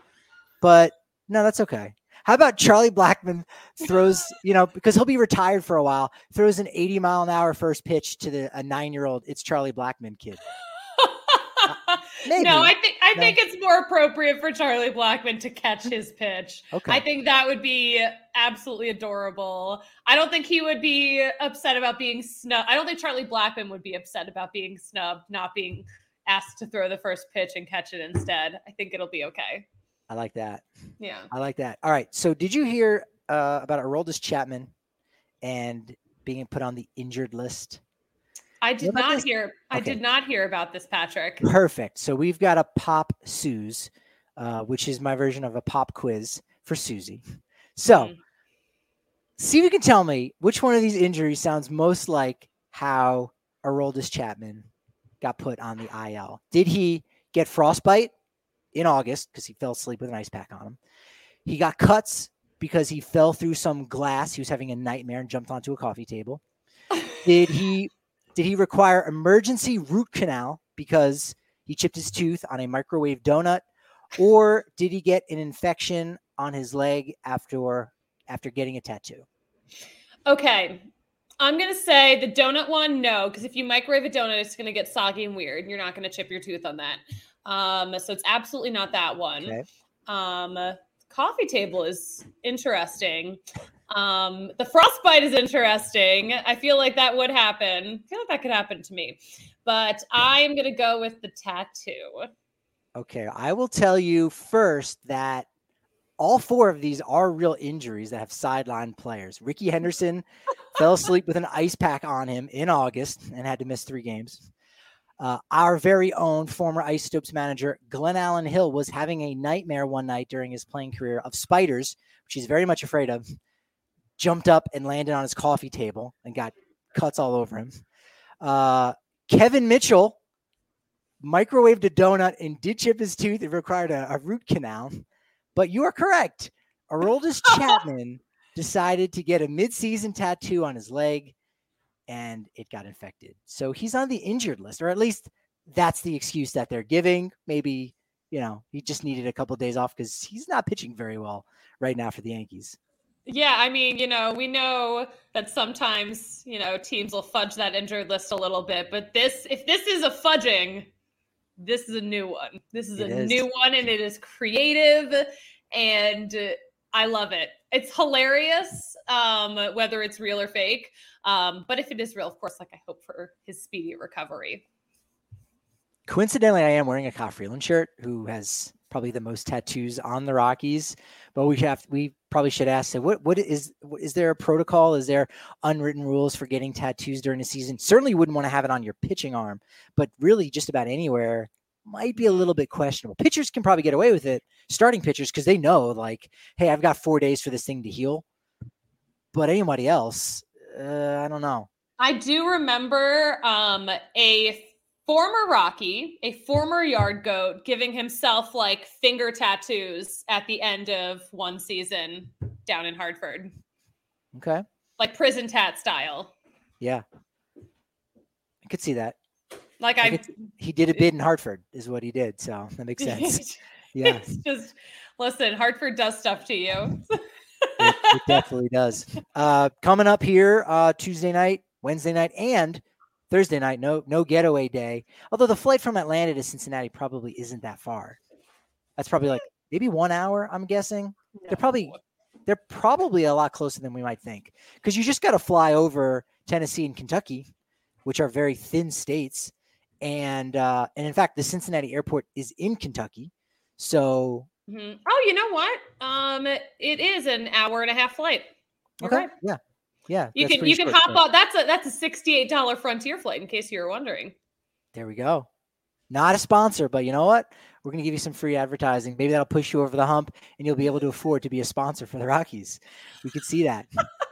but no, that's okay. How about Charlie Blackmon throws, because he'll be retired for a while, throws an 80-mile-an-hour first pitch to a 9-year-old It's Charlie Blackmon kid. Maybe.
No, I think it's more appropriate for Charlie Blackmon to catch his pitch.
Okay.
I think that would be absolutely adorable. I don't think he would be upset about being snubbed. I don't think Charlie Blackmon would be upset about being snubbed, not being asked to throw the first pitch and catch it instead. I think it'll be okay.
I like that.
Yeah.
I like that. All right. So did you hear about Aroldis Chapman and being put on the injured list?
I did not hear. Okay. I did not hear about this, Patrick.
Perfect. So we've got a pop Suze, which is my version of a pop quiz for Susie. So see if you can tell me which one of these injuries sounds most like how Aroldis Chapman got put on the IL. Did he get frostbite in August because he fell asleep with an ice pack on him? He got cuts because he fell through some glass. He was having a nightmare and jumped onto a coffee table. Did he require emergency root canal because he chipped his tooth on a microwave donut? Or did he get an infection on his leg after getting a tattoo?
Okay. I'm going to say the donut one, no, because if you microwave a donut, it's going to get soggy and weird. And you're not going to chip your tooth on that. So it's absolutely not that one.
Okay.
Coffee table is interesting. The frostbite is interesting. I feel like that would happen. I feel like that could happen to me, but I'm going to go with the tattoo.
Okay, I will tell you first that all 4 of these are real injuries that have sidelined players. Ricky Henderson fell asleep with an ice pack on him in August and had to miss 3 games. Our very own former Ice Stoops manager, Glenn Allen Hill, was having a nightmare one night during his playing career of spiders, which he's very much afraid of, jumped up and landed on his coffee table and got cuts all over him. Kevin Mitchell microwaved a donut and did chip his tooth. It required a root canal. But you are correct. Aroldis Chapman decided to get a midseason tattoo on his leg, and it got infected. So he's on the injured list, or at least that's the excuse that they're giving. Maybe, he just needed a couple of days off because he's not pitching very well right now for the Yankees.
Yeah, I mean, we know that sometimes, teams will fudge that injured list a little bit, but if this is a fudging, this is a new one. This is new one, and it is creative, and I love it. It's hilarious, whether it's real or fake. But if it is real, of course, I hope for his speedy recovery.
Coincidentally, I am wearing a Kyle Freeland shirt, who has probably the most tattoos on the Rockies. But we probably should ask, what is there a protocol? Is there unwritten rules for getting tattoos during the season? Certainly wouldn't want to have it on your pitching arm, but really just about anywhere might be a little bit questionable. Pitchers can probably get away with it, starting pitchers, because they know, hey, I've got 4 days for this thing to heal. But anybody else, I don't know.
I do remember a former Rocky, a former yard goat, giving himself finger tattoos at the end of one season down in Hartford.
Okay.
Like prison tat style.
Yeah. I could see that.
He
did a bid in Hartford is what he did. So that makes sense. Yeah.
It's just, listen, Hartford does stuff to you.
It definitely does. Coming up here Tuesday night, Wednesday night, and Thursday night, no getaway day. Although the flight from Atlanta to Cincinnati probably isn't that far. That's probably maybe 1 hour, I'm guessing. No. They're probably a lot closer than we might think, because you just got to fly over Tennessee and Kentucky, which are very thin states. And in fact, the Cincinnati airport is in Kentucky. So
Oh, you know what? It is an hour and a half flight. You're
okay.
Right.
Yeah. Yeah.
You can hop on. That's a $68 Frontier flight, in case you were wondering.
There we go. Not a sponsor, but you know what? We're going to give you some free advertising. Maybe that'll push you over the hump and you'll be able to afford to be a sponsor for the Rockies. We could see that.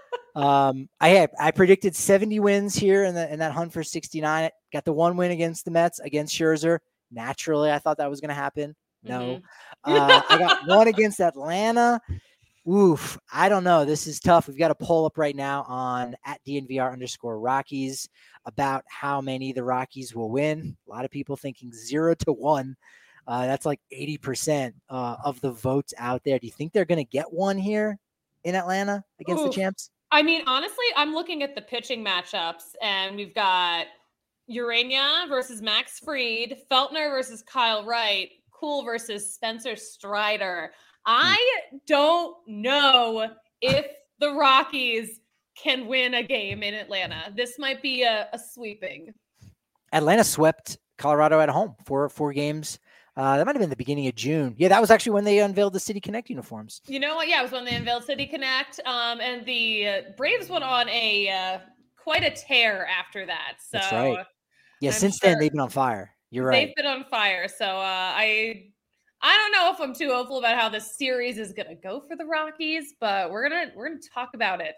I predicted 70 wins here in that hunt for 69. Got the 1 win against the Mets, against Scherzer. Naturally, I thought that was going to happen. No. I got 1 against Atlanta. Oof. I don't know. This is tough. We've got a poll up right now on @DNVR_Rockies about how many the Rockies will win. A lot of people thinking 0-1. That's 80% of the votes out there. Do you think they're going to get 1 here in Atlanta against the champs?
I mean, honestly, I'm looking at the pitching matchups, and we've got Urania versus Max Fried, Feltner versus Kyle Wright, Kuhl versus Spencer Strider. I don't know if the Rockies can win a game in Atlanta. This might be a sweeping.
Atlanta swept Colorado at home for 4 games. That might have been the beginning of June. Yeah, that was actually when they unveiled the City Connect uniforms.
You know what? Yeah, it was when they unveiled City Connect. And the Braves went on quite a tear after that. So
that's right. Yeah, since then they've been on fire. You're right.
They've been on fire. So I don't know if I'm too hopeful about how this series is going to go for the Rockies, but we're gonna talk about it.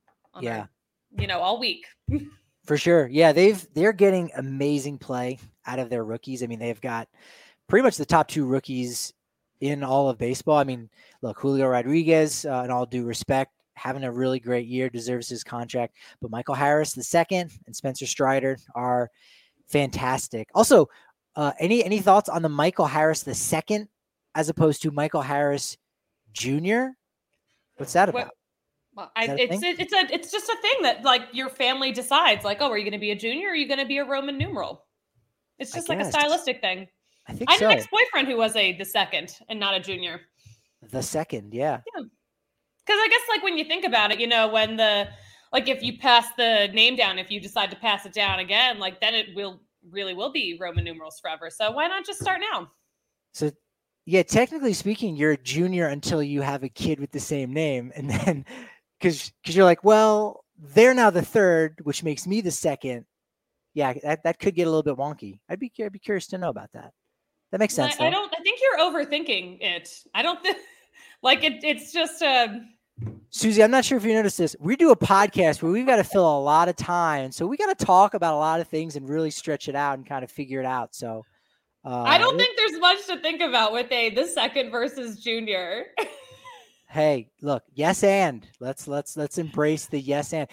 All week.
For sure. Yeah, they're getting amazing play out of their rookies. I mean, they've got pretty much the top 2 rookies in all of baseball. I mean, look, Julio Rodriguez, in all due respect, having a really great year, deserves his contract. But Michael Harris II and Spencer Strider are fantastic. Also, any thoughts on the Michael Harris II as opposed to Michael Harris Jr.? What's that about?
Well, it's just a thing that your family decides. Are you going to be a junior or are you going to be a Roman numeral? It's just a stylistic thing.
I think
I had an ex-boyfriend who was the second and not a junior.
The second, yeah.
Yeah. Because I guess when you think about it, when if you pass the name down, if you decide to pass it down again, then it will be Roman numerals forever. So why not just start now?
So, yeah, technically speaking, you're a junior until you have a kid with the same name. And then because you're like, well, they're now the third, which makes me the second. Yeah, that could get a little bit wonky. I'd be curious to know about that. That makes sense.
I think you're overthinking it. I don't think like it's just
Susie, I'm not sure if you noticed this. We do a podcast where we've got to fill a lot of time. So we got to talk about a lot of things and really stretch it out and kind of figure it out. So
I don't think there's much to think about with the second versus junior.
Hey, look, yes, and let's embrace the yes and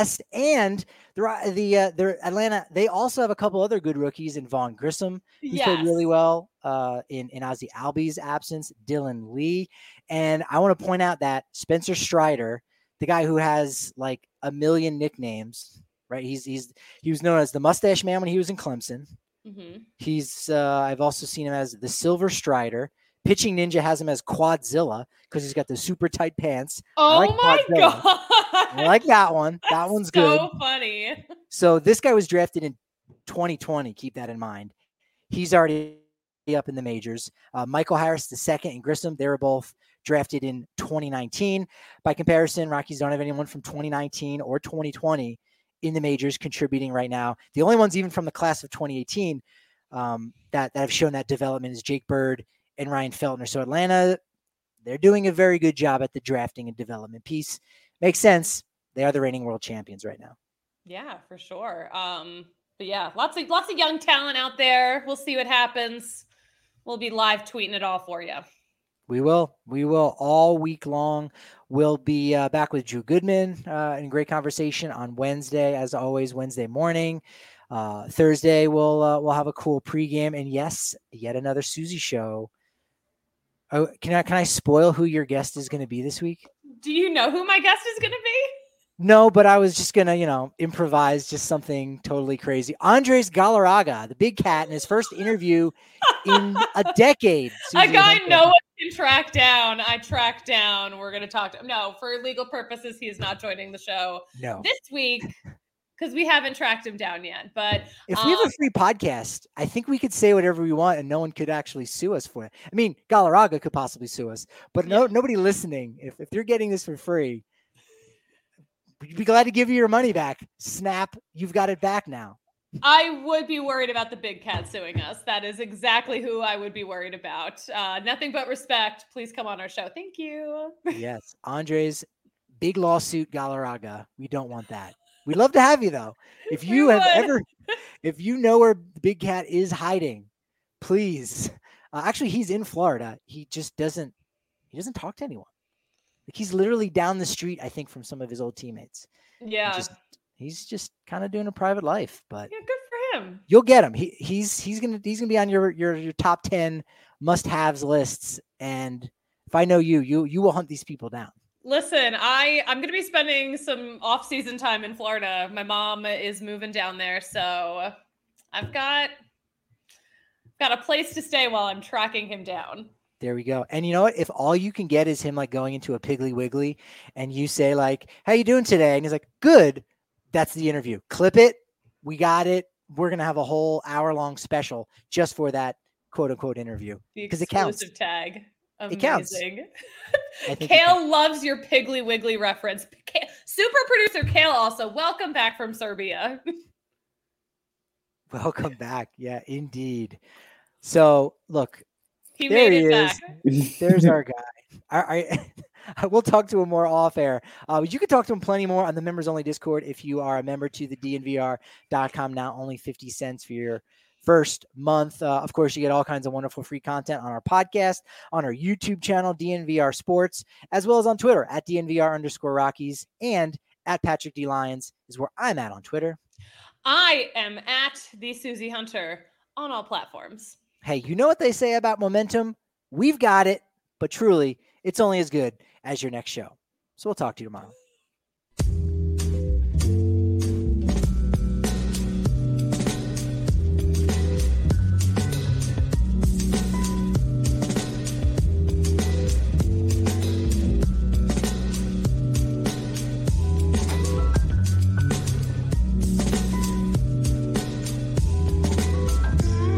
the Atlanta. They also have a couple other good rookies in Vaughn Grissom. He played really well in Ozzy Albies' absence. Dylan Lee, and I want to point out that Spencer Strider, the guy who has like a million nicknames, right? He was known as the Mustache Man when he was in Clemson. Mm-hmm. I've also seen him as the Silver Strider. Pitching Ninja has him as Quadzilla because he's got the super tight pants.
Oh my God.
I like that one. That one's good.
So funny.
So this guy was drafted in 2020. Keep that in mind. He's already up in the majors. Michael Harris II and Grissom, they were both drafted in 2019. By comparison, Rockies don't have anyone from 2019 or 2020 in the majors contributing right now. The only ones even from the class of 2018 that have shown that development is Jake Bird and Ryan Feltner. So Atlanta, they're doing a very good job at the drafting and development piece. Makes sense. They are the reigning world champions right now.
Yeah, for sure. But yeah, lots of young talent out there. We'll see what happens. We'll be live tweeting it all for you.
We will all week long. We'll be back with Drew Goodman in great conversation on Wednesday, as always, Wednesday morning. Thursday we'll have a cool pregame, and yes, yet another Susie show. Oh, can I spoil who your guest is going to be this week?
Do you know who my guest is going to be?
No, but I was just going to, improvise just something totally crazy. Andres Galarraga, the big cat, in his first interview in a decade.
A guy no one can track down. I tracked down. We're going to talk to him. No, for legal purposes, he is not joining the show this week. Because we haven't tracked him down yet. But
if we have a free podcast, I think we could say whatever we want and no one could actually sue us for it. I mean, Galarraga could possibly sue us, but nobody listening, if you're getting this for free, we'd be glad to give you your money back. Snap, you've got it back now.
I would be worried about the big cat suing us. That is exactly who I would be worried about. Nothing but respect. Please come on our show. Thank you.
Yes. Andres, big lawsuit, Galarraga. We don't want that. We'd love to have you though. If you if you know where the big cat is hiding, please. Actually, he's in Florida. He just doesn't talk to anyone. Like he's literally down the street, I think, from some of his old teammates.
Yeah.
He's just kind of doing a private life, but
yeah, good for him.
You'll get him. He's gonna be on your top 10 must-haves lists. And if I know you will hunt these people down.
Listen, I'm going to be spending some off-season time in Florida. My mom is moving down there, so I've got a place to stay while I'm tracking him down.
There we go. And you know what? If all you can get is him like going into a Piggly Wiggly and you say like, "How you doing today?" and he's like, "Good," that's the interview. Clip it. We got it. We're going to have a whole hour-long special just for that quote-unquote interview because it counts.
Tag. Amazing.
It counts.
Kale loves your Piggly Wiggly reference. Super producer Kale also. Welcome back from Serbia.
Welcome back. Yeah, indeed. So look,
he made it back.
There's our guy. I will talk to him more off air. You can talk to him plenty more on the members only Discord if you are a member to the DNVR.com. Now only 50 cents for your first month. Of course, you get all kinds of wonderful free content on our podcast, on our YouTube channel, DNVR Sports, as well as on Twitter at DNVR_Rockies and at Patrick D. Lyons is where I'm at on Twitter.
I am at the Susie Hunter on all platforms.
Hey, you know what they say about momentum? We've got it, but truly, it's only as good as your next show. So we'll talk to you tomorrow.